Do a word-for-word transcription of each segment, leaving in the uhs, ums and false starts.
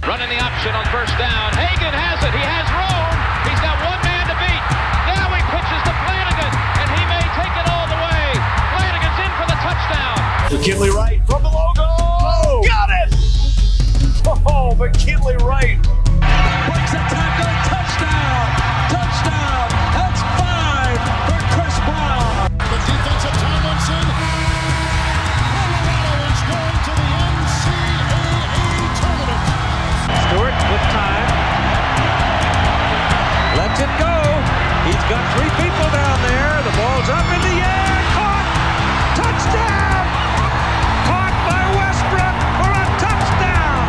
Running the option on first down. Hagan has it. He has room. He's got one man to beat. Now he pitches to Flanagan, and he may take it all the way. Flanagan's in for the touchdown. McKinley Wright from the logo. Oh, got it! Oh, McKinley Wright. Breaks a tackle. Touchdown. Touchdown. That's five for Chris Brown. The defense of Tomlinson. Colorado is going to the N C double A tournament. Stewart with time. Lets it go. He's got three people down there. The ball's up in the air. Caught. Touchdown. Caught by Westbrook for a touchdown.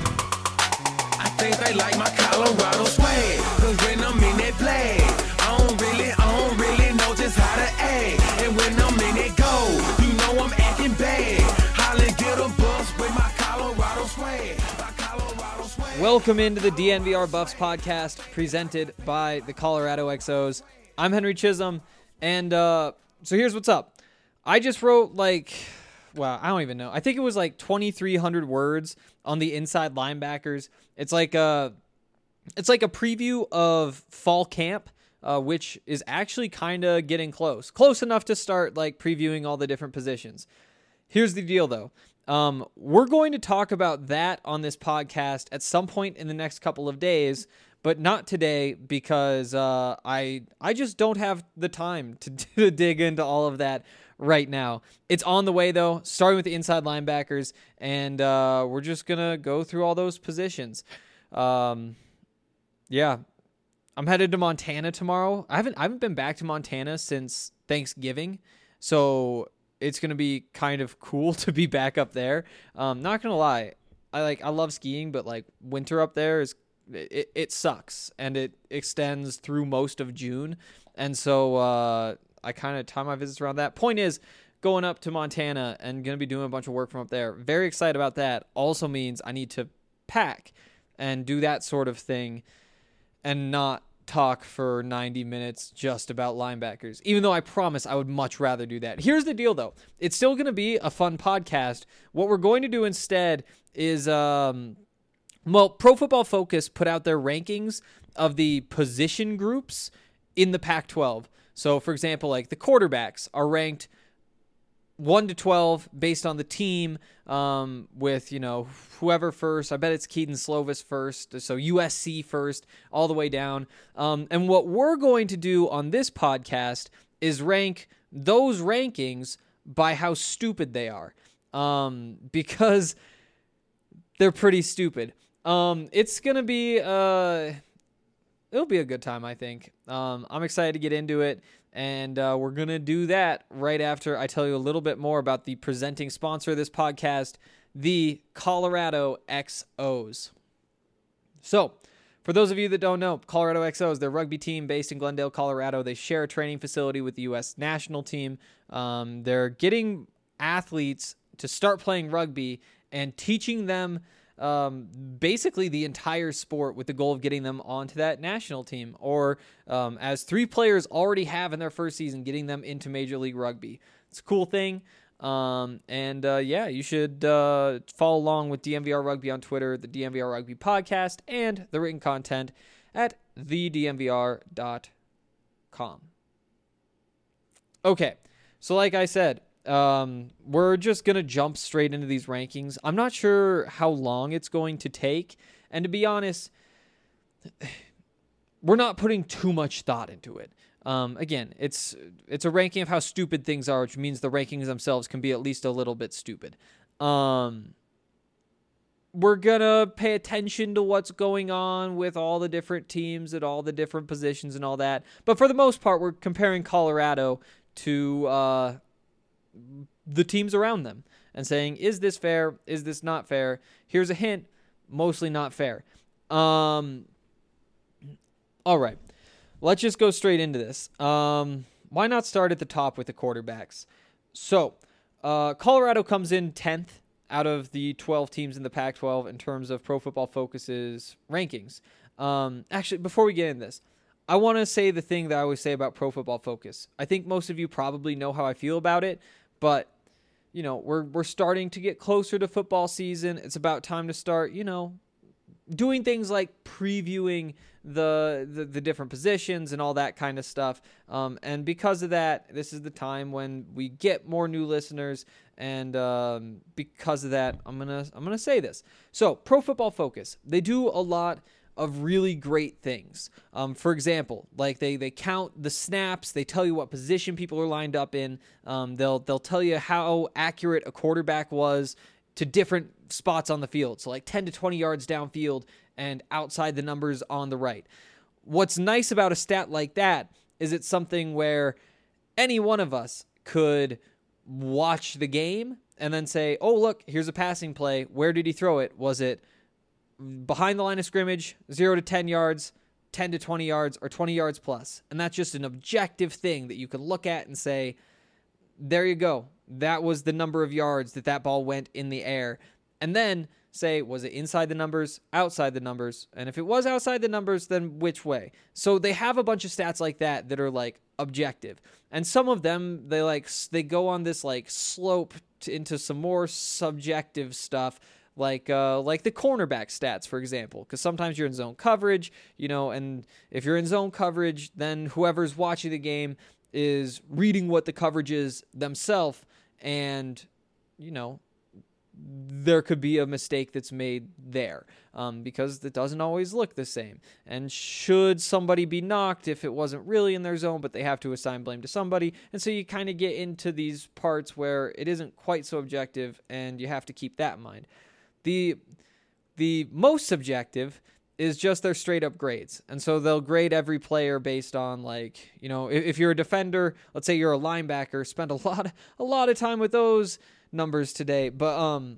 I think they like my Colorado swag. Cause when I'm in that play, I don't really, I don't really know just how to act. And when I'm in that go, you know I'm acting bad. Holly get a bus with my Colorado swag. My Colorado swag. Welcome into the D N V R Buffs podcast presented by the Colorado X Os. I'm Henry Chisholm, and uh, so here's what's up. I just wrote like, well, I don't even know. I think it was like twenty-three hundred words on the inside linebackers. It's like a, it's like a preview of fall camp, uh, which is actually kind of getting close, close enough to start like previewing all the different positions. Here's the deal, though. Um, we're going to talk about that on this podcast at some point in the next couple of days, but not today because uh, I I just don't have the time to, to dig into all of that right now. It's on the way, though, starting with the inside linebackers, and uh, we're just going to go through all those positions. Um, yeah, I'm headed to Montana tomorrow. I haven't I haven't been back to Montana since Thanksgiving, so it's going to be kind of cool to be back up there. Um, not going to lie. I like, I love skiing, but like winter up there is, it, it sucks and it extends through most of June. And so, uh, I kind of time my visits around that. Point is, going up to Montana and going to be doing a bunch of work from up there. Very excited about that. Also means I need to pack and do that sort of thing and not talk for ninety minutes just about linebackers, even though I promise I would much rather do that. Here's the deal, though. It's still going to be a fun podcast. What we're going to do instead is, um, well, Pro Football Focus put out their rankings of the position groups in the Pac twelve. So, for example, like the quarterbacks are ranked one to twelve based on the team, um, with, you know, whoever first. I bet it's Keaton Slovis first, so U S C first, all the way down. Um, and what we're going to do on this podcast is rank those rankings by how stupid they are, um, because they're pretty stupid. Um, it's going to be, uh, it'll be a good time, I think. Um, I'm excited to get into it. And uh, we're going to do that right after I tell you a little bit more about the presenting sponsor of this podcast, the Colorado X Os. So, for those of you that don't know, Colorado X Os, they're a rugby team based in Glendale, Colorado. They share a training facility with the U S national team. Um, they're getting athletes to start playing rugby and teaching them Um, basically the entire sport with the goal of getting them onto that national team, or um, as three players already have in their first season, getting them into Major League Rugby. It's a cool thing. Um, and uh, yeah, you should uh, follow along with D N V R Rugby on Twitter, the D N V R Rugby podcast, and the written content at the d n v r dot com. Okay, so like I said, Um, we're just going to jump straight into these rankings. I'm not sure how long it's going to take. And to be honest, we're not putting too much thought into it. Um, again, it's, it's a ranking of how stupid things are, which means the rankings themselves can be at least a little bit stupid. Um, we're going to pay attention to what's going on with all the different teams at all the different positions and all that. But for the most part, we're comparing Colorado to, uh, the teams around them and saying, is this fair? Is this not fair? Here's a hint, mostly not fair. Um, all right, let's just go straight into this. Um, why not start at the top with the quarterbacks? So, uh, Colorado comes in tenth out of the twelve teams in the Pac twelve in terms of Pro Football Focus's rankings. Um, actually, before we get into this, I want to say the thing that I always say about Pro Football Focus. I think most of you probably know how I feel about it, but you know, we're we're starting to get closer to football season. It's about time to start, you know, doing things like previewing the, the the different positions and all that kind of stuff. Um, and because of that, this is the time when we get more new listeners. And um, because of that, I'm gonna I'm gonna say this. So, Pro Football Focus, they do a lot of really great things. Um, for example, like they they count the snaps, they tell you what position people are lined up in. Um, they'll they'll tell you how accurate a quarterback was to different spots on the field. So like ten to twenty yards downfield and outside the numbers on the right. What's nice about a stat like that is it's something where any one of us could watch the game and then say, oh, look, here's a passing play. Where did he throw it? Was it behind the line of scrimmage, zero to ten yards, ten to twenty yards, or twenty yards plus? And that's just an objective thing that you can look at and say, there you go. That was the number of yards that that ball went in the air. And then say, was it inside the numbers, outside the numbers? And if it was outside the numbers, then which way? So they have a bunch of stats like that that are like objective. And some of them, they like, they go on this like slope to, into some more subjective stuff, like uh, like the cornerback stats, for example, because sometimes you're in zone coverage, you know, and if you're in zone coverage, then whoever's watching the game is reading what the coverage is themselves, and, you know, there could be a mistake that's made there um, because it doesn't always look the same. And should somebody be knocked if it wasn't really in their zone, but they have to assign blame to somebody? And so you kind of get into these parts where it isn't quite so objective, and you have to keep that in mind. The the most subjective is just their straight up grades. And so they'll grade every player based on, like, you know, if, if you're a defender, let's say you're a linebacker, spend a lot of, a lot of time with those numbers today. But, um,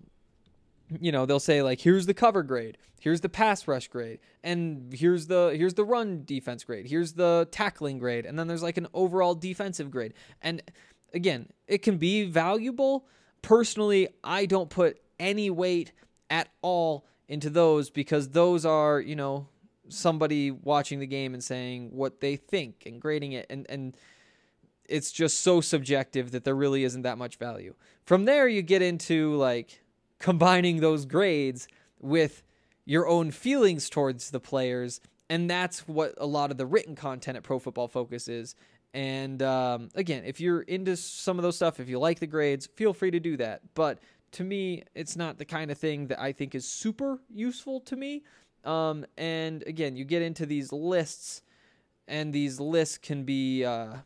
you know, they'll say, like, here's the cover grade, here's the pass rush grade, and here's the, here's the run defense grade, here's the tackling grade. And then there's like an overall defensive grade. And again, it can be valuable. Personally, I don't put any weight at all into those, because those are, you know, somebody watching the game and saying what they think and grading it, and and it's just so subjective that there really isn't that much value. From there, you get into like combining those grades with your own feelings towards the players, and that's what a lot of the written content at Pro Football Focus is. And um, again, if you're into some of those stuff, if you like the grades, feel free to do that. But to me, it's not the kind of thing that I think is super useful to me. Um, and again, you get into these lists, and these lists can be, uh,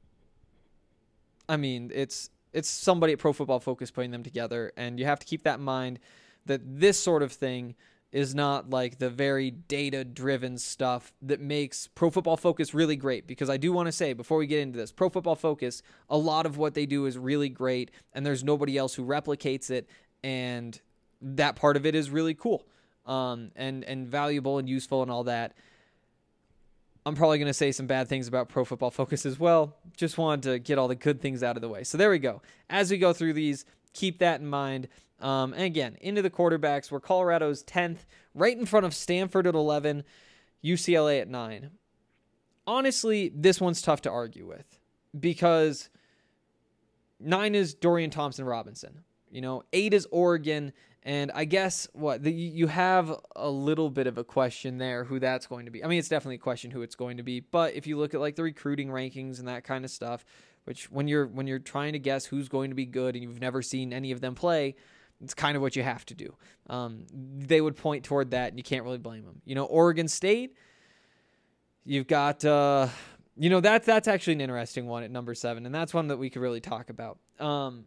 I mean, it's it's somebody at Pro Football Focus putting them together, and you have to keep that in mind, that this sort of thing is not like the very data-driven stuff that makes Pro Football Focus really great. Because I do want to say, before we get into this, Pro Football Focus, a lot of what they do is really great, and there's nobody else who replicates it, and that part of it is really cool, um, and, and valuable and useful and all that. I'm probably going to say some bad things about Pro Football Focus as well. Just wanted to get all the good things out of the way. So there we go. As we go through these, keep that in mind. Um, and again, into the quarterbacks, where Colorado's tenth, right in front of Stanford at eleven, U C L A at nine. Honestly, this one's tough to argue with, because nine is Dorian Thompson-Robinson. You know, eight is Oregon, and I guess what the, you have a little bit of a question there who that's going to be. I mean, it's definitely a question who it's going to be, but if you look at like the recruiting rankings and that kind of stuff, which when you're when you're trying to guess who's going to be good and you've never seen any of them play, it's kind of what you have to do. Um, they would point toward that, and you can't really blame them. You know, Oregon State, you've got, uh, you know, that, that's actually an interesting one at number seven, and that's one that we could really talk about. Um,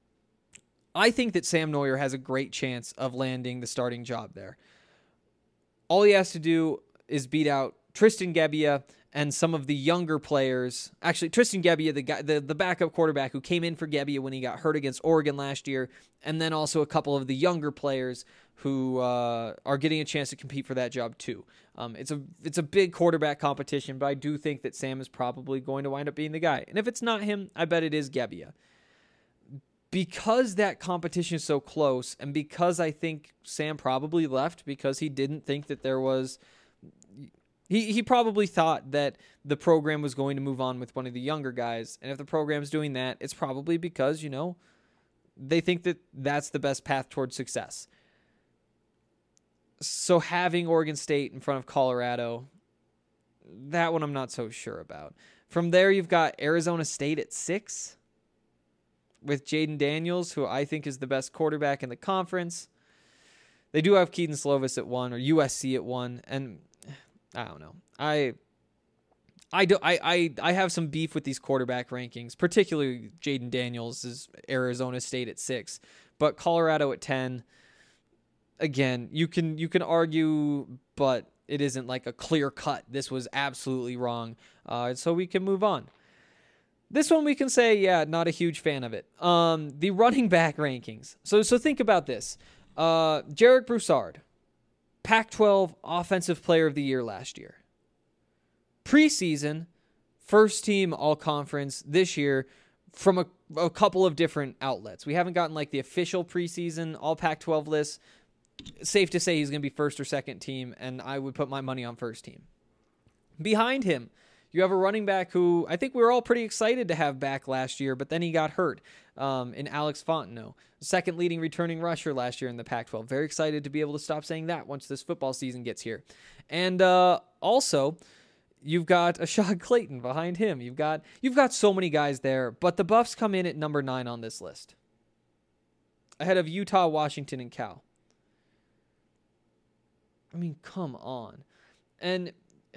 I think that Sam Neuer has a great chance of landing the starting job there. All he has to do is beat out Tristan Gebbia and some of the younger players. Actually, Tristan Gebbia, the guy, the, the backup quarterback who came in for Gebbia when he got hurt against Oregon last year, and then also a couple of the younger players who uh, are getting a chance to compete for that job too. Um, it's a it's a big quarterback competition, but I do think that Sam is probably going to wind up being the guy. And if it's not him, I bet it is Gebbia. Because that competition is so close, and because I think Sam probably left because he didn't think that there was... He he probably thought that the program was going to move on with one of the younger guys. And if the program's doing that, it's probably because, you know, they think that that's the best path towards success. So having Oregon State in front of Colorado, that one I'm not so sure about. From there, you've got Arizona State at six with Jaden Daniels, who I think is the best quarterback in the conference. They do have Keaton Slovis at one, or U S C at one, and I don't know. I I do I I, I have some beef with these quarterback rankings, particularly Jaden Daniels is Arizona State at six, but Colorado at ten. Again, you can you can argue, but it isn't like a clear cut. This was absolutely wrong, uh, so we can move on. This one we can say, yeah, not a huge fan of it. Um, the running back rankings. So so think about this. Uh, Jarek Broussard, Pac twelve Offensive Player of the Year last year. Preseason, first team All-Conference this year from a, a couple of different outlets. We haven't gotten like the official preseason All Pac twelve list. Safe to say he's going to be first or second team, and I would put my money on first team. Behind him, you have a running back who I think we were all pretty excited to have back last year, but then he got hurt um, in Alex Fontenot, second leading returning rusher last year in the Pac twelve. Very excited to be able to stop saying that once this football season gets here. And uh, also, you've got Ashad Clayton behind him. You've got you've got so many guys there, but the Buffs come in at number nine on this list, ahead of Utah, Washington, and Cal. I mean, come on. And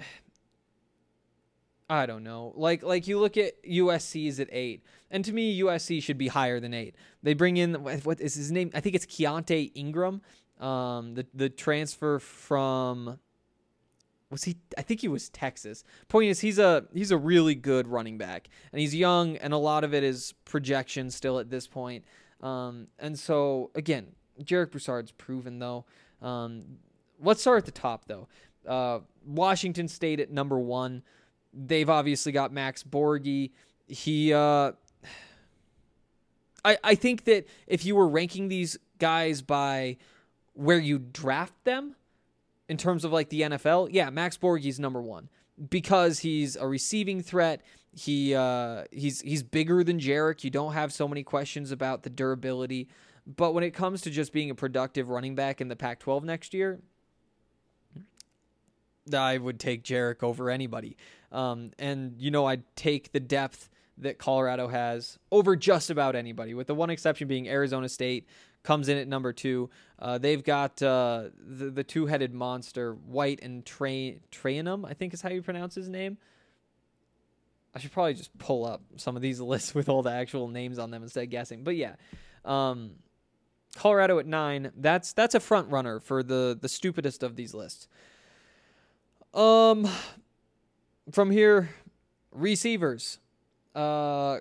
I don't know. Like like you look at U S C's at eight. And to me, U S C should be higher than eight. They bring in, what is his name? I think it's Keontae Ingram. Um, the, the transfer from, was he, I think he was Texas. Point is, he's a, he's a really good running back. And he's young, and a lot of it is projection still at this point. Um, and so, again, Jarek Broussard's proven, though. Um, let's start at the top, though. Uh, Washington State at number one. They've obviously got Max Borghi. He, uh, I, I think that if you were ranking these guys by where you draft them in terms of like the N F L, yeah, Max Borghi's number one because he's a receiving threat. He, uh, he's, he's bigger than Jarek. You don't have so many questions about the durability, but when it comes to just being a productive running back in the Pac twelve next year, I would take Jarek over anybody. Um, and, you know, I'd take the depth that Colorado has over just about anybody, with the one exception being Arizona State comes in at number two. Uh, they've got uh, the, the two-headed monster, White and Tra- Trayanum, I think is how you pronounce his name. I should probably just pull up some of these lists with all the actual names on them instead of guessing. But, yeah, um, Colorado at nine. That's that's a front runner for the, the stupidest of these lists. Um, from here, receivers. Uh,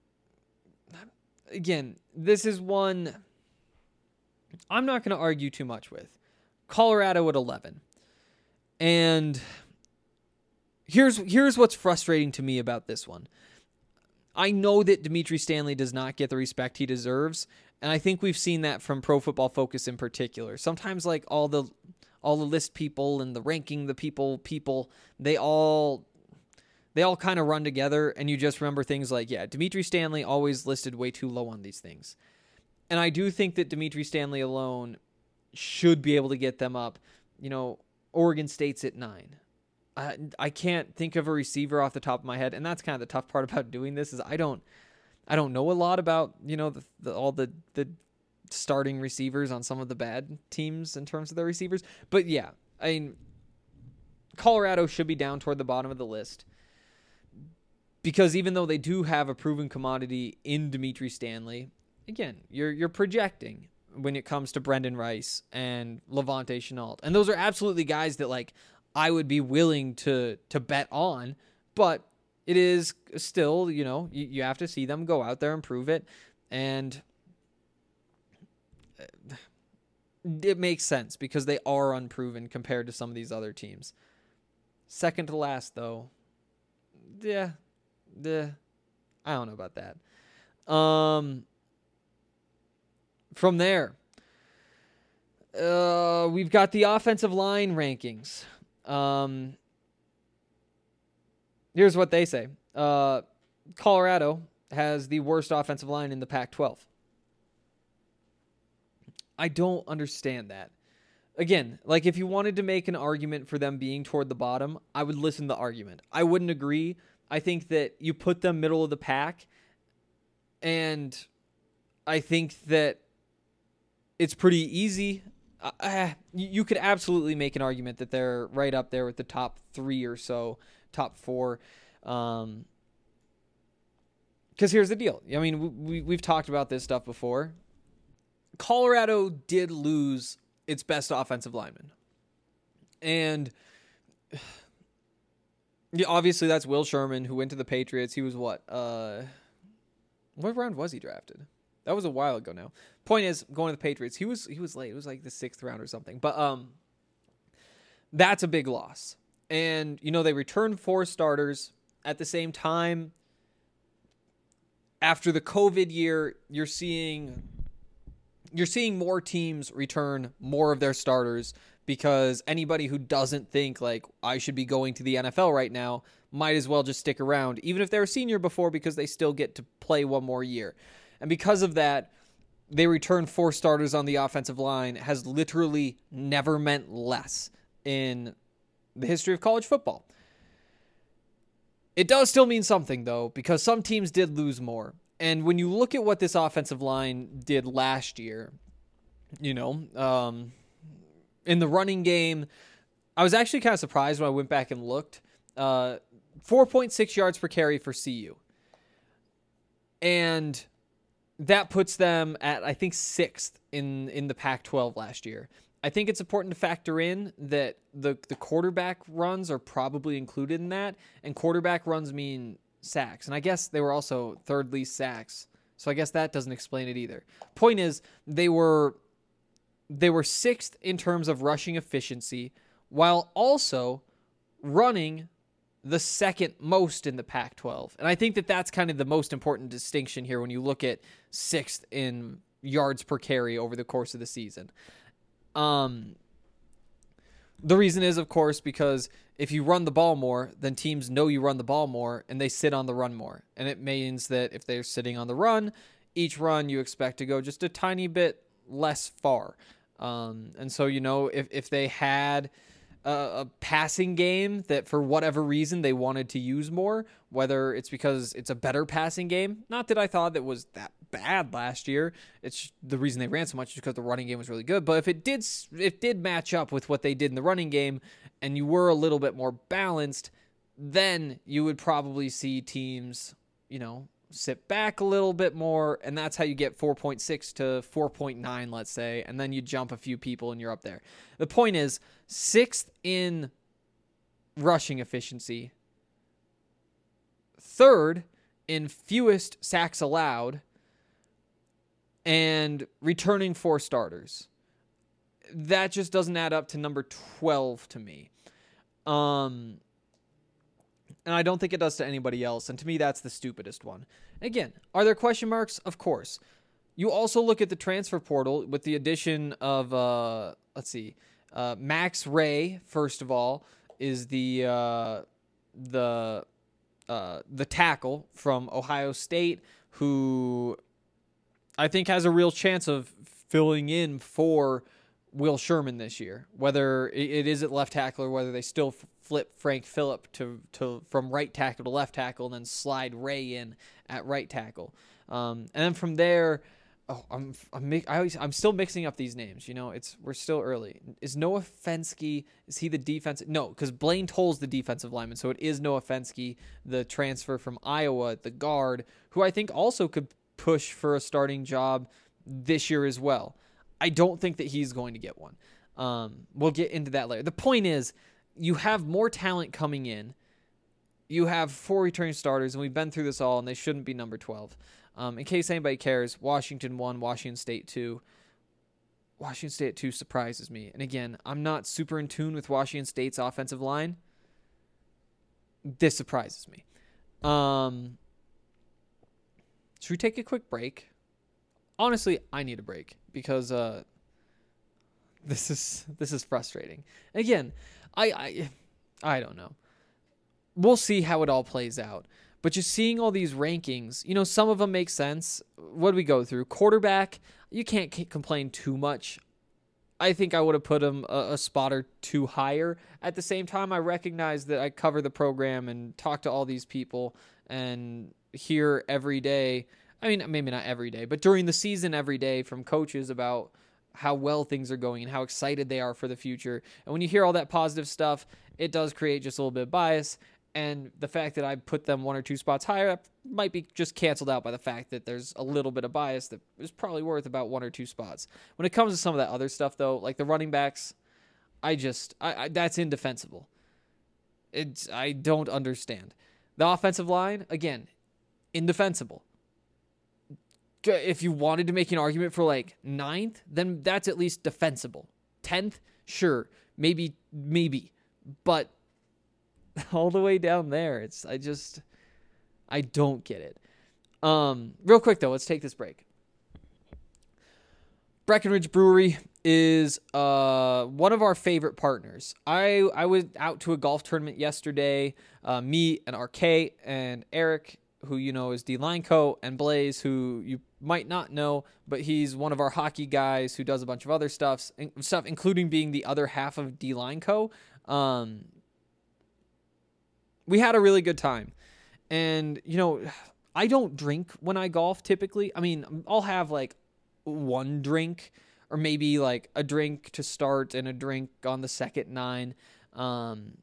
again, this is one I'm not going to argue too much with. Colorado at eleven. And here's here's what's frustrating to me about this one. I know that Dimitri Stanley does not get the respect he deserves, and I think we've seen that from Pro Football Focus in particular. Sometimes like all the all the list people and the ranking the people people, they all they all kind of run together, and you just remember things like, yeah, Dimitri Stanley always listed way too low on these things. And I do think that Dimitri Stanley alone should be able to get them up. You know, Oregon State's at nine. I, I can't think of a receiver off the top of my head, and that's kind of the tough part about doing this is I don't I don't know a lot about, you know, the, the all the the starting receivers on some of the bad teams in terms of their receivers. But yeah, I mean, Colorado should be down toward the bottom of the list because even though they do have a proven commodity in Dimitri Stanley, again, you're you're projecting when it comes to Brendan Rice and Levante Chenault. And those are absolutely guys that like I would be willing to to bet on, but it is still, you know, you, you have to see them go out there and prove it. And it makes sense because they are unproven compared to some of these other teams. Second to last, though, yeah, the I don't know about that. Um, from there, uh, we've got the offensive line rankings. Um, here's what they say. Uh, Colorado has the worst offensive line in the Pac twelve. I don't understand that. again, like if you wanted to make an argument for them being toward the bottom, I would listen to the argument. I wouldn't agree. I think that you put them middle of the pack, and I think that it's pretty easy. Uh, you could absolutely make an argument that they're right up there with the top three or so, top four. Um, because here's the deal. I mean, we, we've talked about this stuff before. Colorado did lose its best offensive lineman. And yeah, obviously that's Will Sherman, who went to the Patriots. He was what? Uh, what round was he drafted? That was a while ago now. Point is, going to the Patriots, he was he was late. It was like the sixth round or something. But um, that's a big loss. And, you know, they returned four starters. At the same time, after the COVID year, you're seeing you're seeing more teams return more of their starters, because anybody who doesn't think like I should be going to the N F L right now might as well just stick around, even if they're a senior before, because they still get to play one more year. And because of that, they returned four starters on the offensive line has literally never meant less in the history of college football. It does still mean something, though, because some teams did lose more. And when you look at what this offensive line did last year, you know, um, in the running game, I was actually kind of surprised when I went back and looked. Uh, four point six yards per carry for C U. And that puts them at, I think, sixth in, in the Pac twelve last year. I think it's important to factor in that the, the quarterback runs are probably included in that, and quarterback runs mean sacks. And I guess they were also third least sacks, so I guess that doesn't explain it either. Point is, they were they were sixth in terms of rushing efficiency, while also running the second most in the Pac twelve. And I think that that's kind of the most important distinction here when you look at sixth in yards per carry over the course of the season. Um, the reason is, of course, because if you run the ball more, then teams know you run the ball more, and they sit on the run more. And it means that if they're sitting on the run, each run you expect to go just a tiny bit less far. Um, and so, you know, if, if they had a, a passing game that for whatever reason they wanted to use more, whether it's because it's a better passing game, not that I thought that was that bad last year. It's the reason they ran so much is because the running game was really good. But if it did, it did match up with what they did in the running game, and you were a little bit more balanced, then you would probably see teams, you know, sit back a little bit more, and that's how you get four point six to four point nine, let's say, and then you jump a few people and you're up there. The point is, sixth in rushing efficiency, third in fewest sacks allowed, and returning four starters. That just doesn't add up to number twelve to me. Um, and I don't think it does to anybody else. And to me, that's the stupidest one. Again, are there question marks? Of course. You also look at the transfer portal with the addition of, uh, let's see, uh, Max Ray, first of all, is the uh, the uh, the tackle from Ohio State, who I think has a real chance of filling in for Will Sherman this year, whether it is at left tackle or whether they still flip Frank Phillip to, to from right tackle to left tackle and then slide Ray in at right tackle. Um, and then from there, oh, I'm I'm I always, I'm still mixing up these names. You know, it's we're still early. Is Noah Fenske, is he the defensive? No, because Blaine Toll's the defensive lineman, so it is Noah Fenske, the transfer from Iowa, the guard, who I think also could push for a starting job this year as well. I don't think that he's going to get one. Um, we'll get into that later. The point is, you have more talent coming in. You have four returning starters, and we've been through this all, and they shouldn't be number twelve. Um, in case anybody cares, Washington one, Washington State two. Washington State two surprises me. And again, I'm not super in tune with Washington State's offensive line. This surprises me. Um, should we take a quick break? Honestly, I need a break because uh, this is this is frustrating. Again, I, I I don't know. We'll see how it all plays out. But just seeing all these rankings, you know, some of them make sense. What do we go through? Quarterback, you can't complain too much. I think I would have put him a, a spot or two higher. At the same time, I recognize that I cover the program and talk to all these people and hear every day. I mean, maybe not every day, but during the season every day from coaches about how well things are going and how excited they are for the future. And when you hear all that positive stuff, it does create just a little bit of bias. And the fact that I put them one or two spots higher up might be just canceled out by the fact that there's a little bit of bias that is probably worth about one or two spots. When it comes to some of that other stuff, though, like the running backs, I just, I, I that's indefensible. It's, I don't understand. The offensive line, again, indefensible. If you wanted to make an argument for like ninth, then that's at least defensible. tenth, sure, maybe, maybe, but all the way down there, it's I just I don't get it. Um, real quick though, let's take this break. Breckenridge Brewery is uh one of our favorite partners. I I was out to a golf tournament yesterday. Uh, me and R K and Eric, who you know is D Lineco, and Blaze, who you might not know, but he's one of our hockey guys who does a bunch of other stuff, stuff including being the other half of D Lineco. Um, we had a really good time. And, you know, I don't drink when I golf typically. I mean, I'll have like one drink or maybe like a drink to start and a drink on the second nine. Um,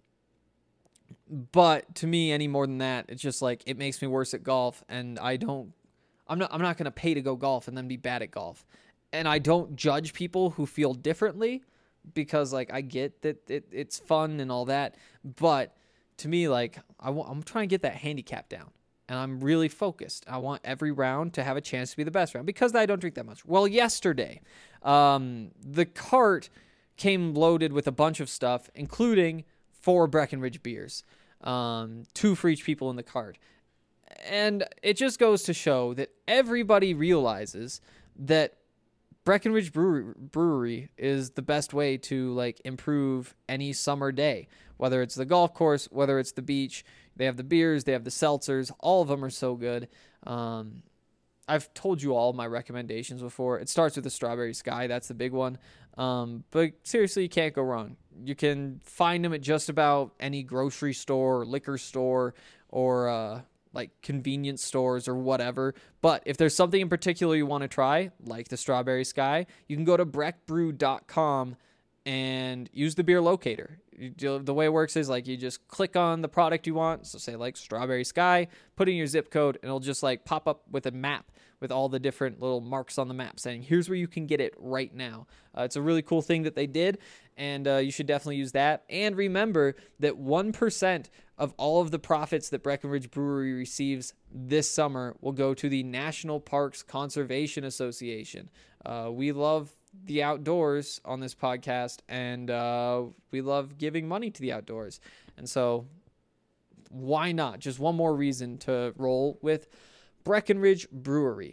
but to me, any more than that, it's just like it makes me worse at golf, and I don't I'm not I'm not going to pay to go golf and then be bad at golf. And I don't judge people who feel differently because like I get that it, it's fun and all that, but to me, like, I w- I'm trying to get that handicap down, and I'm really focused. I want every round to have a chance to be the best round because I don't drink that much. Well, yesterday, um, the cart came loaded with a bunch of stuff, including four Breckenridge beers, um, two for each people in the cart. And it just goes to show that everybody realizes that Breckenridge Brewery, Brewery is the best way to like improve any summer day, whether it's the golf course, whether it's the beach. They have the beers, they have the seltzers. All of them are so good. Um, I've told you all my recommendations before. It starts with the Strawberry Sky. That's the big one. Um, but seriously, you can't go wrong. You can find them at just about any grocery store, or liquor store, or uh, like convenience stores or whatever. But if there's something in particular you want to try, like the Strawberry Sky, you can go to breck brew dot com and use the beer locator. You, the way it works is like you just click on the product you want. So say like Strawberry Sky, put in your zip code, and it'll just like pop up with a map with all the different little marks on the map saying, here's where you can get it right now. Uh, it's a really cool thing that they did, and uh, you should definitely use that. And remember that one percent of all of the profits that Breckenridge Brewery receives this summer will go to the National Parks Conservation Association. Uh, we love the outdoors on this podcast, and uh, we love giving money to the outdoors. And so why not? Just one more reason to roll with Breckenridge Brewery.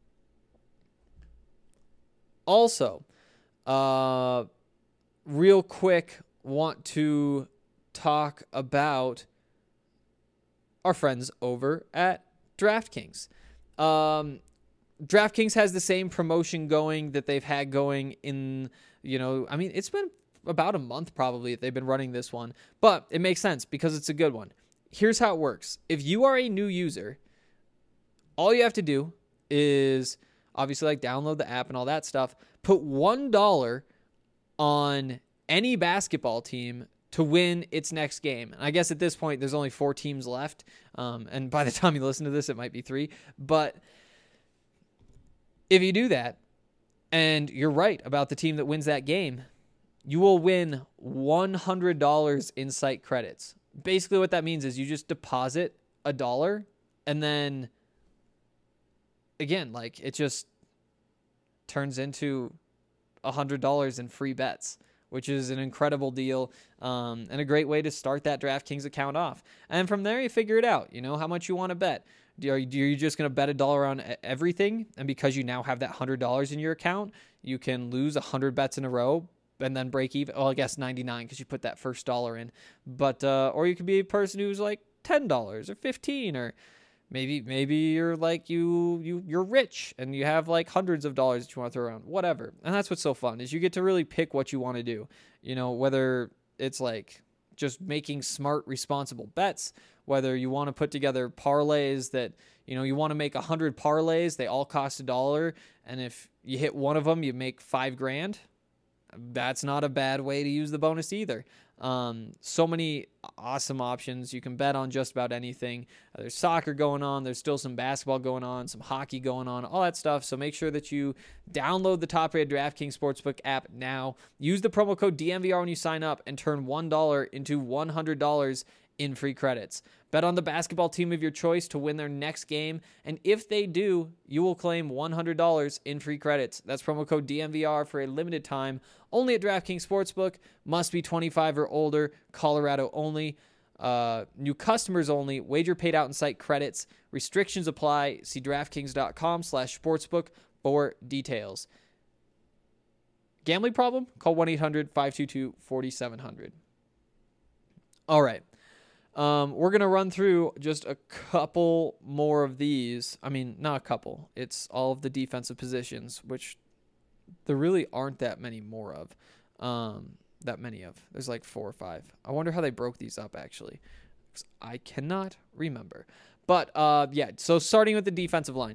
Also, uh, real quick, want to talk about our friends over at DraftKings. Um, DraftKings has the same promotion going that they've had going in, you know, I mean, it's been about a month probably that they've been running this one, but it makes sense because it's a good one. Here's how it works. If you are a new user, all you have to do is obviously like download the app and all that stuff, put one dollar on any basketball team to win its next game. And I guess at this point, there's only four teams left. Um, and by the time you listen to this, it might be three. But if you do that, and you're right about the team that wins that game, you will win one hundred dollars in site credits. Basically what that means is you just deposit a dollar, and then, again, like it just turns into one hundred dollars in free bets, which is an incredible deal, um, and a great way to start that DraftKings account off. And from there, you figure it out, you know, how much you want to bet. Are you just going to bet a dollar on everything? And because you now have that one hundred dollars in your account, you can lose one hundred bets in a row and then break even. Well, I guess ninety-nine because you put that first dollar in. But uh, or you could be a person who's like ten dollars or fifteen dollars or Maybe maybe you're like you you you're rich and you have like hundreds of dollars that you want to throw around. Whatever. And that's what's so fun is you get to really pick what you want to do. You know, whether it's like just making smart, responsible bets, whether you want to put together parlays that, you know, you want to make a hundred parlays, they all cost a dollar. And if you hit one of them, you make five grand. That's not a bad way to use the bonus either. Um, so many awesome options. You can bet on just about anything. Uh, there's soccer going on. There's still some basketball going on, some hockey going on, all that stuff. So make sure that you download the top-rated DraftKings Sportsbook app now. Use the promo code D M V R when you sign up and turn one dollar into one hundred dollars in free credits. Bet on the basketball team of your choice to win their next game, and if they do, you will claim one hundred dollars in free credits. That's promo code D M V R for a limited time, only at DraftKings Sportsbook. Must be twenty-five or older, Colorado only. Uh, new customers only. Wager paid out in site credits. Restrictions apply. See DraftKings.com slash sportsbook for details. Gambling problem? Call one eight hundred five two two four seven zero zero. All right. Um, we're going to run through just a couple more of these. I mean, not a couple. It's all of the defensive positions, which there really aren't that many more of. Um, that many of. There's like four or five. I wonder how they broke these up, actually. 'Cause I cannot remember. But, uh, yeah, so starting with the defensive line.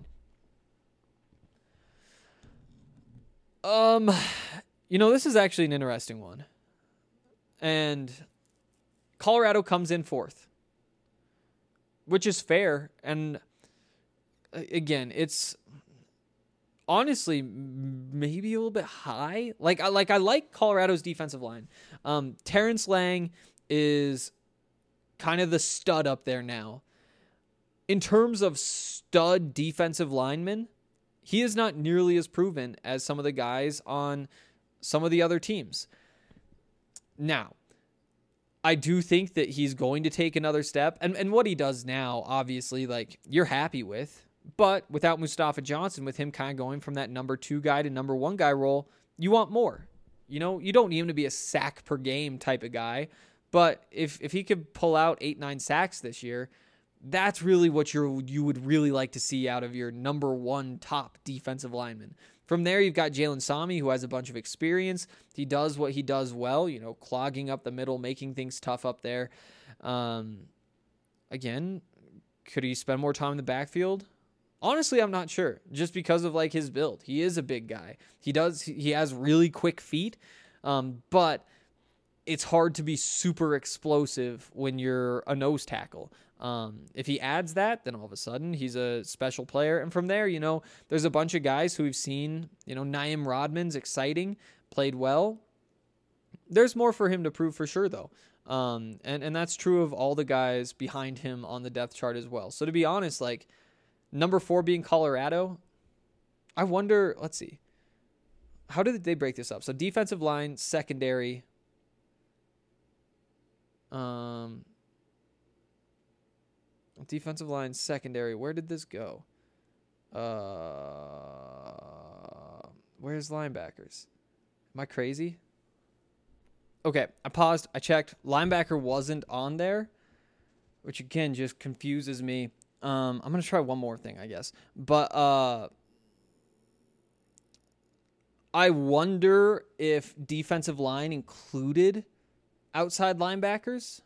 Um, you know, this is actually an interesting one. And Colorado comes in fourth, which is fair. And again, it's honestly maybe a little bit high. Like I like I like Colorado's defensive line. Um, Terrence Lang is kind of the stud up there now. In terms of stud defensive linemen, he is not nearly as proven as some of the guys on some of the other teams. Now, I do think that he's going to take another step. And and what he does now, obviously, like, you're happy with. But without Mustafa Johnson, with him kind of going from that number two guy to number one guy role, you want more. You know, you don't need him to be a sack per game type of guy. But if if he could pull out eight, nine sacks this year, that's really what you're, you would really like to see out of your number one top defensive lineman. From there, you've got Jalen Sami, who has a bunch of experience. He does what he does well, you know, clogging up the middle, making things tough up there. Um, again, could he spend more time in the backfield? Honestly, I'm not sure, just because of like his build. He is a big guy. He does, he has really quick feet, um, but it's hard to be super explosive when you're a nose tackle. Um, if he adds that, then all of a sudden he's a special player. And from there, you know, there's a bunch of guys who we've seen, you know, Naim Rodman's exciting, played well. There's more for him to prove for sure, though. Um, and, and that's true of all the guys behind him on the depth chart as well. So to be honest, like, number four being Colorado, I wonder, let's see. How did they break this up? So defensive line, secondary, um... defensive line, secondary. Where did this go? Uh, where's linebackers? Am I crazy? Okay, I paused. I checked. Linebacker wasn't on there, which again just confuses me. Um, I'm gonna try one more thing, I guess. But uh, I wonder if defensive line included outside linebackers,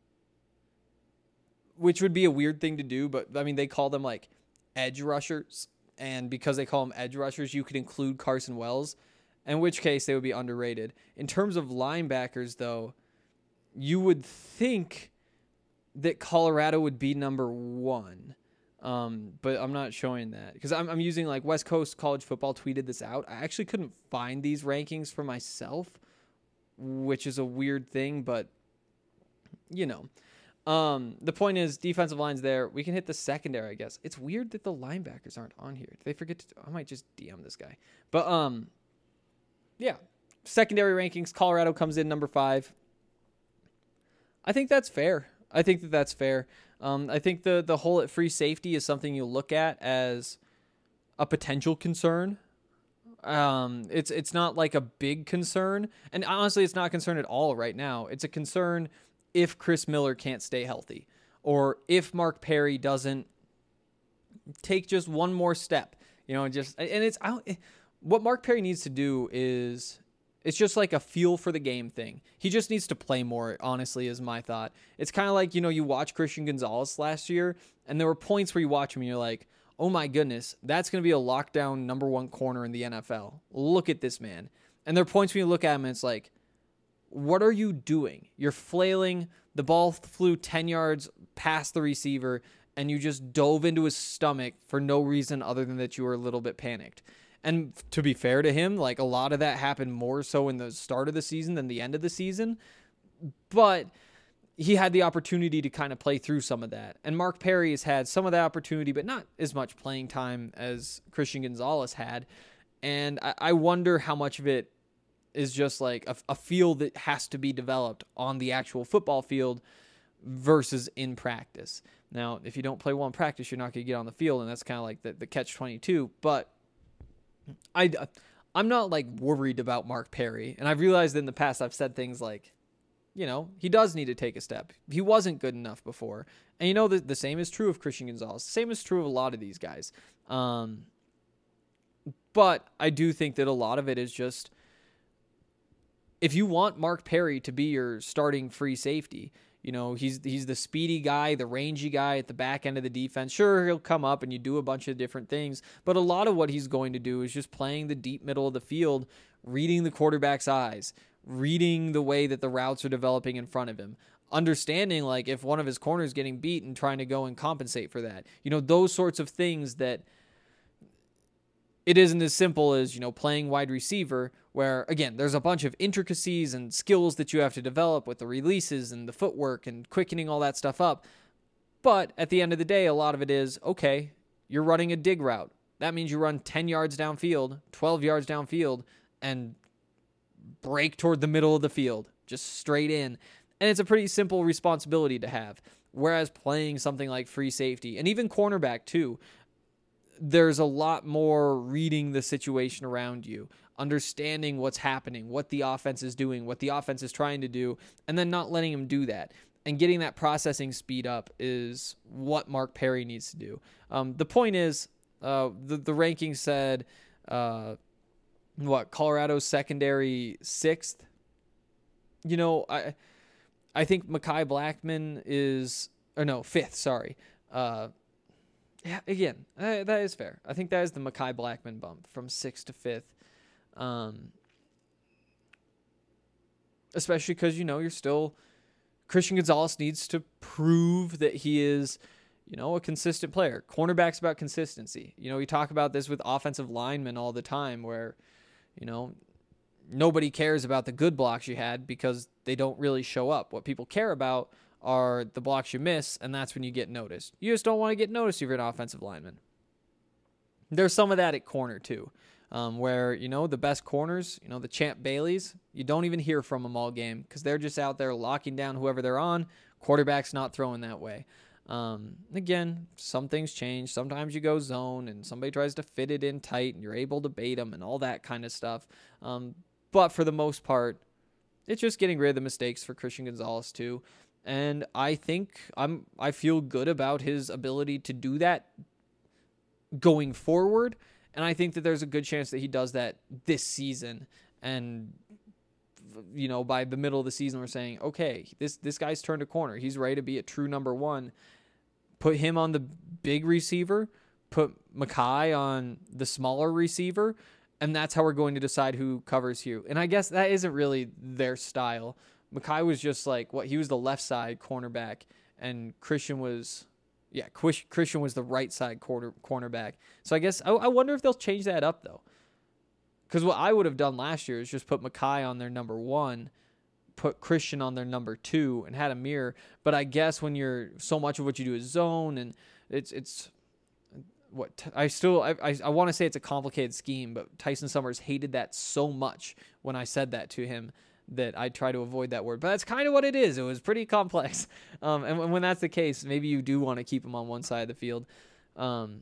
which would be a weird thing to do, but I mean, they call them like edge rushers, and because they call them edge rushers, you could include Carson Wells, in which case they would be underrated. In terms of linebackers, though, you would think that Colorado would be number one, um, but I'm not showing that because I'm, I'm using like West Coast College Football tweeted this out. I actually couldn't find these rankings for myself, which is a weird thing, but you know. Um, the point is, defensive line's there. We can hit the secondary, I guess. It's weird that the linebackers aren't on here. Did they forget to? I might just D M this guy. But um, yeah, secondary rankings. Colorado comes in number five. I think that's fair. I think that that's fair. Um, I think the the hole at free safety is something you look at as a potential concern. Um, it's it's not like a big concern, and honestly, it's not a concern at all right now. It's a concern if Chris Miller can't stay healthy, or if Mark Perry doesn't take just one more step, you know, just, and it's, I don't, what Mark Perry needs to do is, it's just like a feel for the game thing. He just needs to play more, honestly, is my thought. It's kind of like, you know, you watch Christian Gonzalez last year, and there were points where you watch him and you're like, oh my goodness, that's going to be a lockdown number one corner in the N F L. Look at this man. And there are points when you look at him and it's like, what are you doing? You're flailing. The ball flew ten yards past the receiver, and you just dove into his stomach for no reason other than that you were a little bit panicked. And to be fair to him, like a lot of that happened more so in the start of the season than the end of the season. But he had the opportunity to kind of play through some of that. And Mark Perry has had some of that opportunity, but not as much playing time as Christian Gonzalez had. And I, I wonder how much of it is just like a, a field that has to be developed on the actual football field versus in practice. Now, if you don't play well in practice, you're not going to get on the field, and that's kind of like the, the catch twenty-two. But I, I'm not like worried about Mark Perry. And I've realized in the past I've said things like, you know, he does need to take a step. He wasn't good enough before. And you know, the, the same is true of Christian Gonzalez. The same is true of a lot of these guys. Um, but I do think that a lot of it is just, if you want Mark Perry to be your starting free safety, you know, he's he's the speedy guy, the rangy guy at the back end of the defense. Sure, he'll come up and you do a bunch of different things, but a lot of what he's going to do is just playing the deep middle of the field, reading the quarterback's eyes, reading the way that the routes are developing in front of him, understanding like if one of his corners getting beat and trying to go and compensate for that. You know, those sorts of things that it isn't as simple as, you know, playing wide receiver where, again, there's a bunch of intricacies and skills that you have to develop with the releases and the footwork and quickening all that stuff up. But at the end of the day, a lot of it is, okay, you're running a dig route. That means you run ten yards downfield, twelve yards downfield, and break toward the middle of the field, just straight in. And it's a pretty simple responsibility to have. Whereas playing something like free safety, and even cornerback too, there's a lot more reading the situation around you, understanding what's happening, what the offense is doing, what the offense is trying to do, and then not letting him do that. And getting that processing speed up is what Mark Perry needs to do. Um, the point is, uh, the, the ranking said, uh, what, Colorado's secondary sixth? You know, I I think Mekhi Blackmon is, or no, fifth, sorry. Uh, yeah, again, uh, that is fair. I think that is the Mekhi Blackmon bump from sixth to fifth. Um, especially because, you know, you're still, Christian Gonzalez needs to prove that he is, you know, a consistent player. Cornerback's about consistency. You know, we talk about this with offensive linemen all the time where, you know, nobody cares about the good blocks you had because they don't really show up. What people care about are the blocks you miss, and that's when you get noticed. You just don't want to get noticed if you're an offensive lineman. There's some of that at corner, too, um, where, you know, the best corners, you know, the Champ Baileys, you don't even hear from them all game because they're just out there locking down whoever they're on. Quarterback's not throwing that way. Um, again, some things change. Sometimes you go zone and somebody tries to fit it in tight and you're able to bait them and all that kind of stuff. Um, but for the most part, it's just getting rid of the mistakes for Christian Gonzalez too. And I think I'm, I feel good about his ability to do that going forward. And I think that there's a good chance that he does that this season. And, you know, by the middle of the season, we're saying, okay, this, this guy's turned a corner. He's ready to be a true number one. Put him on the big receiver, put Mekhi on the smaller receiver, and that's how we're going to decide who covers who. And I guess that isn't really their style. Mekhi was just like, what, he was the left side cornerback, and Christian was, yeah, Christian was the right side corner, cornerback. So I guess, I, I wonder if they'll change that up, though. Because what I would have done last year is just put Mekhi on their number one, put Christian on their number two, and had a mirror. But I guess when you're, so much of what you do is zone, and it's, it's, what, I still, I, I, I want to say it's a complicated scheme, but Tyson Summers hated that so much when I said that to him that I try to avoid that word. But that's kind of what it is. It was pretty complex. Um, and when that's the case, maybe you do want to keep him on one side of the field. Um,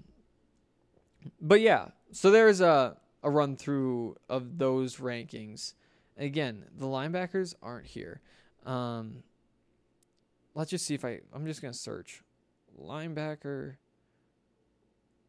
but yeah, so there's a, a run through of those rankings. Again, the linebackers aren't here. Um, let's just see if I, I'm just going to search linebacker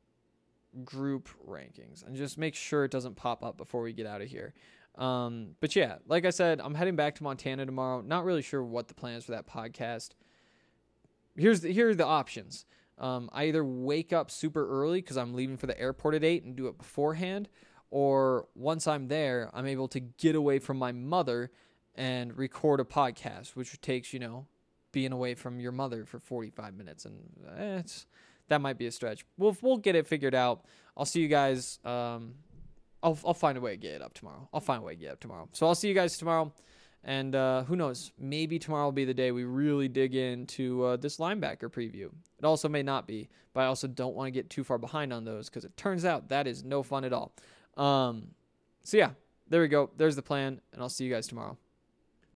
group rankings and just make sure it doesn't pop up before we get out of here. Um, but yeah, like I said, I'm heading back to Montana tomorrow. Not really sure what the plan is for that podcast. Here's the, here are the options. Um, I either wake up super early because I'm leaving for the airport at eight and do it beforehand, or once I'm there, I'm able to get away from my mother and record a podcast, which takes, you know, being away from your mother for forty-five minutes, and eh, it's that might be a stretch. We'll we'll get it figured out. I'll see you guys. Um, I'll I'll find a way to get it up tomorrow. I'll find a way to get it up tomorrow. So I'll see you guys tomorrow. And uh, who knows? Maybe tomorrow will be the day we really dig into uh, this linebacker preview. It also may not be, but I also don't want to get too far behind on those because it turns out that is no fun at all. Um, so yeah, there we go. There's the plan, and I'll see you guys tomorrow.